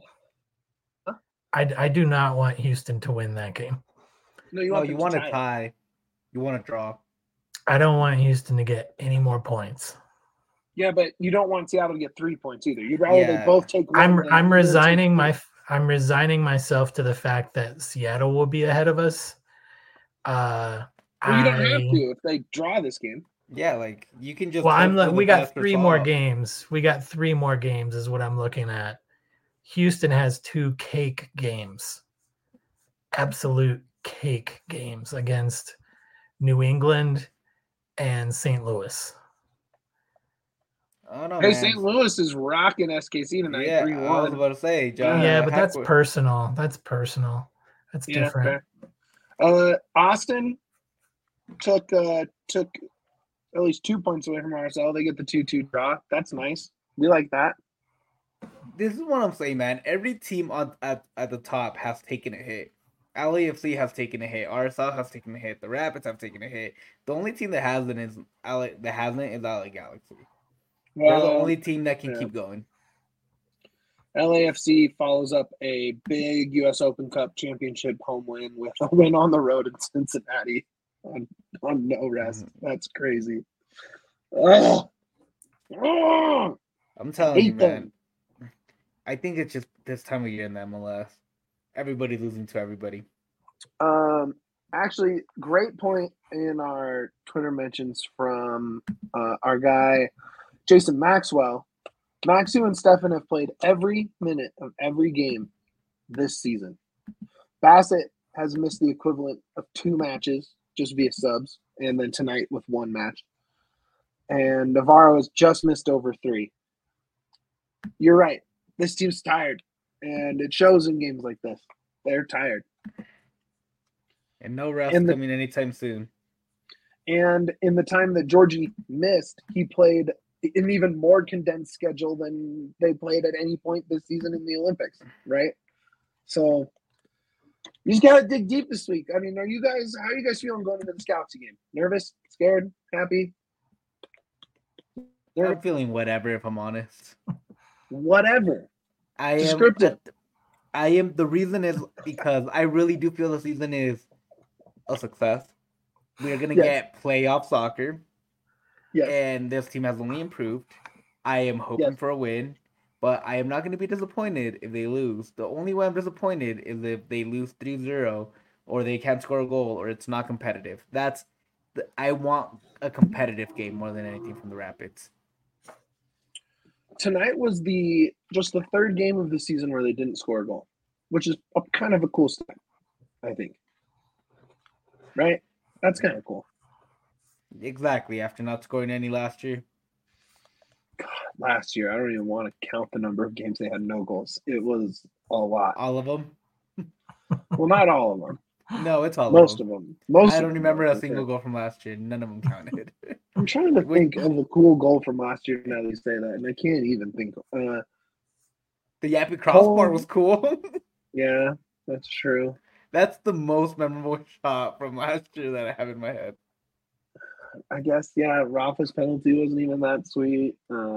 I do not want Houston to win that game. No, you No, want you them want to to tie. tie. You want to draw. I don't want Houston to get any more points. Yeah, but you don't want Seattle to get 3 points either. You'd rather they Yeah. both take one. I'm than either resigning take three. I'm resigning myself to the fact that Seattle will be ahead of us. Well, you don't have to if they draw this game. Yeah, like you can just. Well, hope for the we got best 3 more result. games. We got 3 more games is what I'm looking at. Houston has 2 cake games. Absolute cake games against New England and St. Louis. I don't know, Hey, man. St. Louis is rocking SKC tonight, Yeah, 3-1. I was about to say, John. Yeah, but that's Hackworth. personal. That's personal. That's Yeah, different. fair. Austin took at least 2 points away from RSL. They get the 2-2 draw. That's nice. We like that. This is what I'm saying, man. Every team at the top has taken a hit. LAFC has taken a hit. RSL has taken a hit. The Rapids have taken a hit. The only team that hasn't is LA Galaxy. They're the only team that can yeah. keep going. LAFC follows up a big U.S. Open Cup championship home win with a win on the road in Cincinnati on no rest. That's crazy. Ugh. Ugh. I'm telling you, Hate man. them. I think it's just this time of year in the MLS. Everybody's losing to everybody. Actually, great point in our Twitter mentions from our guy Jason Maxwell. Maxu and Stefan have played every minute of every game this season. Bassett has missed the equivalent of 2 matches just via subs, and then tonight with 1 match. And Navarro has just missed over 3. You're right. This team's tired, and it shows in games like this. They're tired. And no rest And the- coming anytime soon. And in the time that Georgie missed, he played an even more condensed schedule than they played at any point this season in the Olympics, right? So you just gotta dig deep this week. I mean, how are you guys feeling going into the Scouts game? Nervous, scared, happy? I'm feeling whatever, if I'm honest. Whatever. I am. Descriptive. I am. The reason is because I really do feel the season is a success. We are gonna Yes. get playoff soccer, Yes. and this team has only improved. I am hoping Yes. for a win, but I am not going to be disappointed if they lose. The only way I'm disappointed is if they lose 3-0 or they can't score a goal or it's not competitive. I want a competitive game more than anything from the Rapids. Tonight was just the 3rd game of the season where they didn't score a goal, which is kind of a cool step, I think. right? That's kind of cool. Exactly. After not scoring any last year. Last year, I don't even want to count the number of games they had no goals. It was a lot. All of them? Well, not all of them. No, it's all Most of them. of them. Most. I don't remember a a single goal from last year. None of them counted. I'm trying to think of a cool goal from last year now that you say that, and I can't even think. The Yappy crossbar was cool. Yeah, that's true. That's the most memorable shot from last year that I have in my head. I guess, yeah, Rafa's penalty wasn't even that sweet.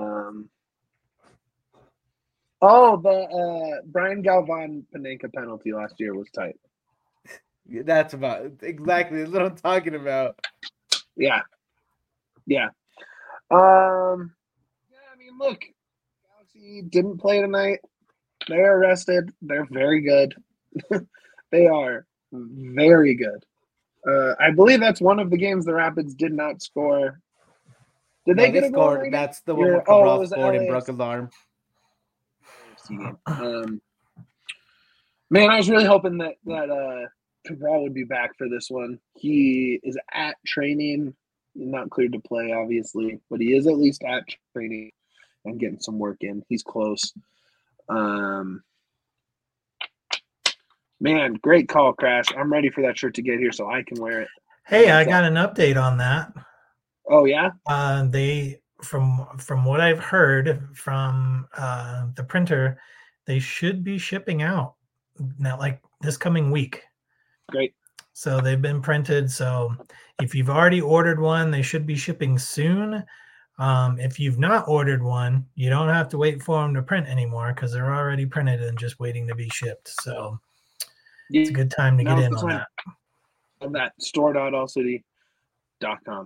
The Brian Galvan Panenka penalty last year was tight. That's exactly what I'm talking about. Yeah. Yeah. I mean, look, Galaxy didn't play tonight. They're rested. They're very good. They are very good. I believe that's one of the games the Rapids did not score. Did they get a goal? Scored? That's the one where Cabral scored and broke his arm. Man, I was really hoping that Cabral would be back for this one. He is at training, not cleared to play, obviously, but he is at least at training and getting some work in. He's close. Man, great call, Crash. I'm ready for that shirt to get here so I can wear it. Hey, I got an update on that. Oh yeah? They from what I've heard from the printer, they should be shipping out now, like this coming week. Great. So they've been printed. So if you've already ordered one, they should be shipping soon. If you've not ordered one, you don't have to wait for them to print anymore because they're already printed and just waiting to be shipped. So it's a good time to get in on that. On that store.allcity.com.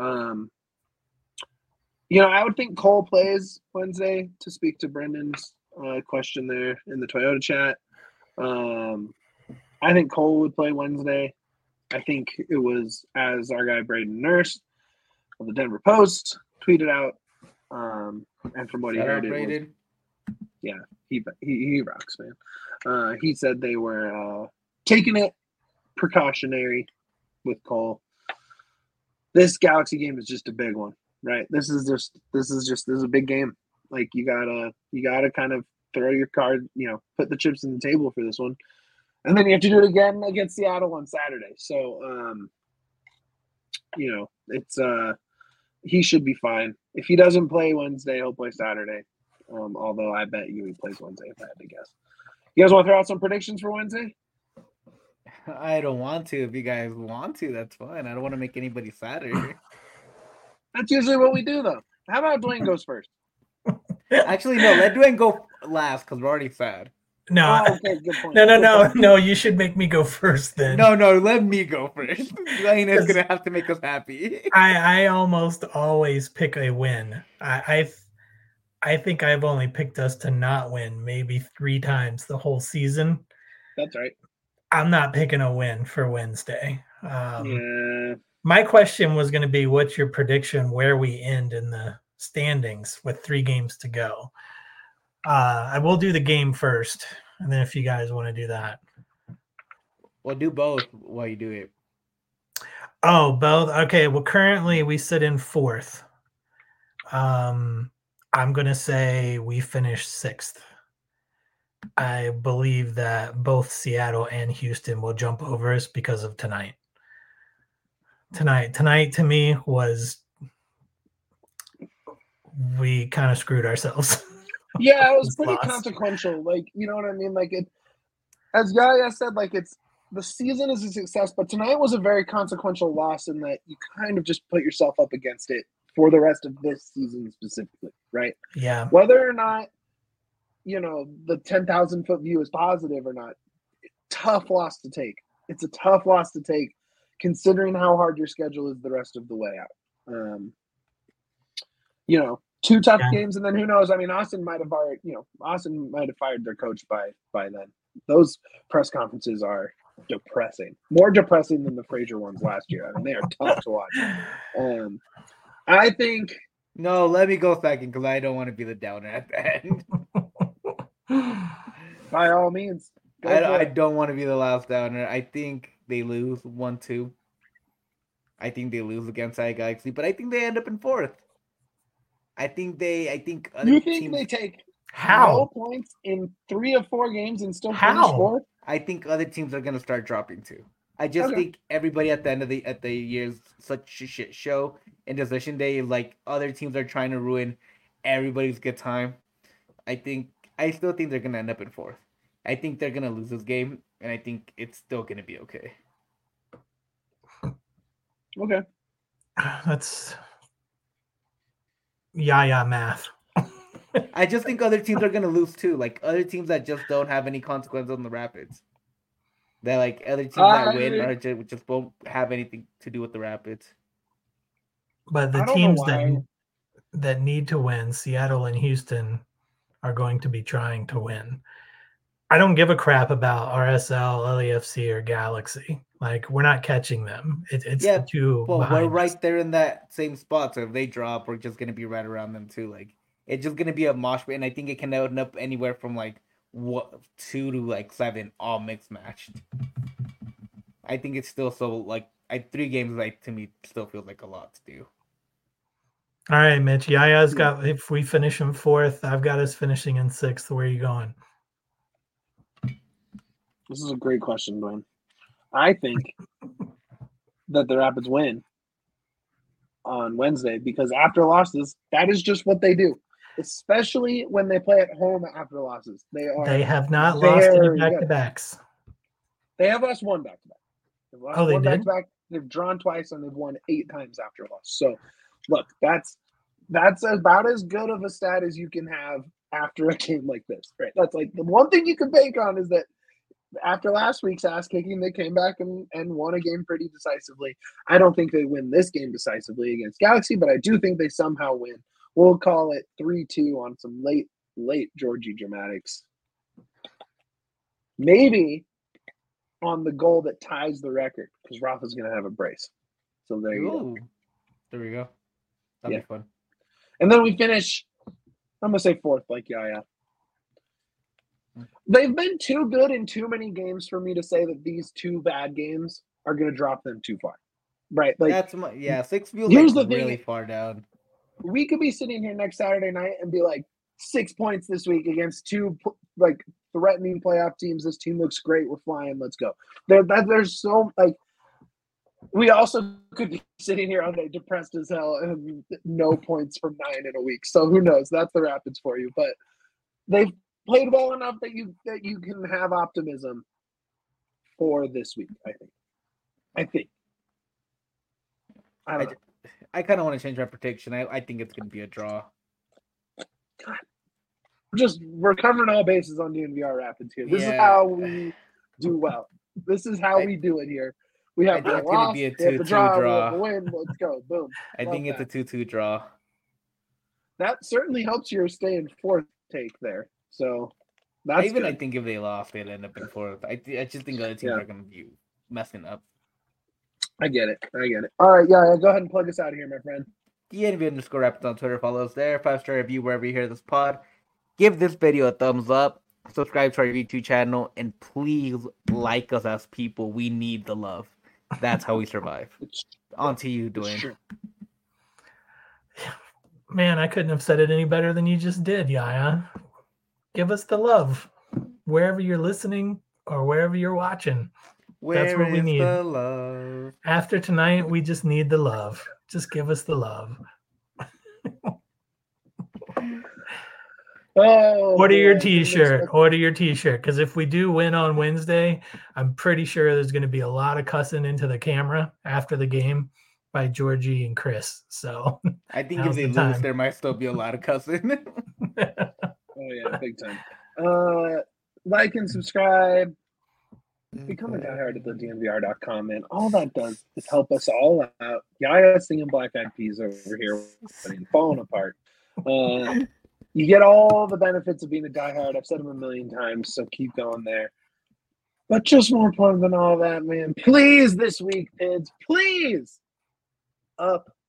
I would think Cole plays Wednesday, to speak to Brendan's question there in the Toyota chat. I think Cole would play Wednesday. I think it was, as our guy Braden Nurse of the Denver Post tweeted out, and from what he heard, it was, yeah, he rocks, man. He said they were taking it precautionary with Cole. This Galaxy game is just a big one, right? This is a big game. Like you gotta kind of throw your card, put the chips on the table for this one, and then you have to do it again against Seattle on Saturday. So, it's he should be fine. If he doesn't play Wednesday, he'll play Saturday. Although I bet you he plays Wednesday if I had to guess. You guys want to throw out some predictions for Wednesday? I don't want to. If you guys want to, that's fine. I don't want to make anybody sadder. That's usually what we do, though. How about Dwayne goes first? Actually, no. Let Dwayne go last because we're already sad. No, okay, good point. No. You should make me go first then. No. Let me go first. Dwayne is gonna have to make us happy. I almost always pick a win. I think I've only picked us to not win maybe 3 times the whole season. That's right. I'm not picking a win for Wednesday. Yeah. My question was going to be, what's your prediction where we end in the standings with 3 games to go? I will do the game first, and then if you guys want to do that. Well, do both while you do it. Oh, both? Okay, well, currently we sit in 4th. I'm going to say we finish 6th. I believe that both Seattle and Houston will jump over us because of tonight. Tonight to me was we kind of screwed ourselves. Yeah, it was pretty consequential. Like, you know what I mean? Like, as Yaya said, like, the season is a success, but tonight was a very consequential loss in that you kind of just put yourself up against it for the rest of this season specifically, right? Yeah. Whether or not, the 10,000-foot view is positive or not, tough loss to take. It's a tough loss to take considering how hard your schedule is the rest of the way out. 2 tough games, and then who knows? I mean, Austin might have fired their coach by then. Those press conferences are depressing, more depressing than the Frazier ones last year. I mean, they are tough to watch. I think. No, let me go second because I don't want to be the downer at the end. By all means, I don't want to be the last downer. I think they lose 1-2. I think they lose against LA Galaxy, but I think they end up in fourth. I think other You think teams. they take no How? points in 3 of 4 games and still finish How? fourth? I think other teams are gonna start dropping too. I just Okay. think everybody at the end of the year is such a shit show. And decision day, like other teams are trying to ruin everybody's good time. I still think they're gonna end up in fourth. I think they're gonna lose this game, and I think it's still gonna be okay. Okay. That's math. I just think other teams are gonna lose too. Like other teams that just don't have any consequence on the Rapids. That like other teams that win or just won't have anything to do with the Rapids. But the I don't know teams why. that need to win, Seattle and Houston, are going to be trying to win. I don't give a crap about RSL, LAFC, or Galaxy. Like, we're not catching them. It's the two Well, we're behind us. right there in that same spot. So if they drop, we're just gonna be right around them too. Like it's just gonna be a mosh pit, and I think it can end up anywhere from like 2 to like 7, all mixed matched. I think it's still so like 3 games. Like to me, still feels like a lot to do. All right, Mitch. Yaya's got. If we finish in fourth, I've got us finishing in sixth. Where are you going? This is a great question, Dwayne. I think that the Rapids win on Wednesday because after losses, that is just what they do. Especially when they play at home after losses. They have not lost any back-to-backs. They have lost one back-to-back. They've lost they one did? back-to-back. They've drawn twice and they've won 8 times after a loss. So, look, that's about as good of a stat as you can have after a game like this, right? That's like the one thing you can bank on is that after last week's ass kicking, they came back and won a game pretty decisively. I don't think they win this game decisively against Galaxy, but I do think they somehow win. We'll call it 3-2 on some late Georgie dramatics. Maybe on the goal that ties the record because Rafa's going to have a brace. So there you go. There we go. That'd be fun. And then we finish, I'm going to say fourth, like Yaya. They've been too good in too many games for me to say that these 2 bad games are going to drop them too far. Right? Like 6 feels like really far down. We could be sitting here next Saturday night and be like 6 points this week against 2 like threatening playoff teams. This team looks great. We're flying. Let's go. There's so like we also could be sitting here on depressed as hell and no points from 9 in a week. So who knows? That's the Rapids for you. But they've played well enough that you can have optimism for this week. I think. I don't know. I kind of want to change my prediction. I think it's going to be a draw. We're covering all bases on DNVR Rapids here. This is how we do well. This is how we do it here. We have it's going to be a 2-2 draw. Win. Let's go. Boom. I think it's a 2-2 draw. That certainly helps your stay in fourth take there. So that's I good. think if they lost, they'd end up in fourth. I just think other teams are going to be messing up. I get it. All right, yeah, go ahead and plug us out of here, my friend. DNV_Rapids on Twitter. Follow us there. 5-star review wherever you hear this pod. Give this video a thumbs up. Subscribe to our YouTube channel. And please like us as people. We need the love. That's how we survive. On to you, Dwayne. Man, I couldn't have said it any better than you just did, Yaya. Give us the love. Wherever you're listening or wherever you're watching. That's what we need. The love? After tonight, we just need the love. Just give us the love. Order your t-shirt. Order your t-shirt. Because if we do win on Wednesday, I'm pretty sure there's going to be a lot of cussing into the camera after the game by Georgie and Chris. So I think if they lose, there might still be a lot of cussing. Oh yeah, big time. Like and subscribe. Become a diehard at thednvr.com, man. All that does is help us all out. Yaya singing Black Eyed Peas over here, falling apart. You get all the benefits of being a diehard. I've said them a million times, so keep going there. But just more important than all that, man, please this week, kids, please up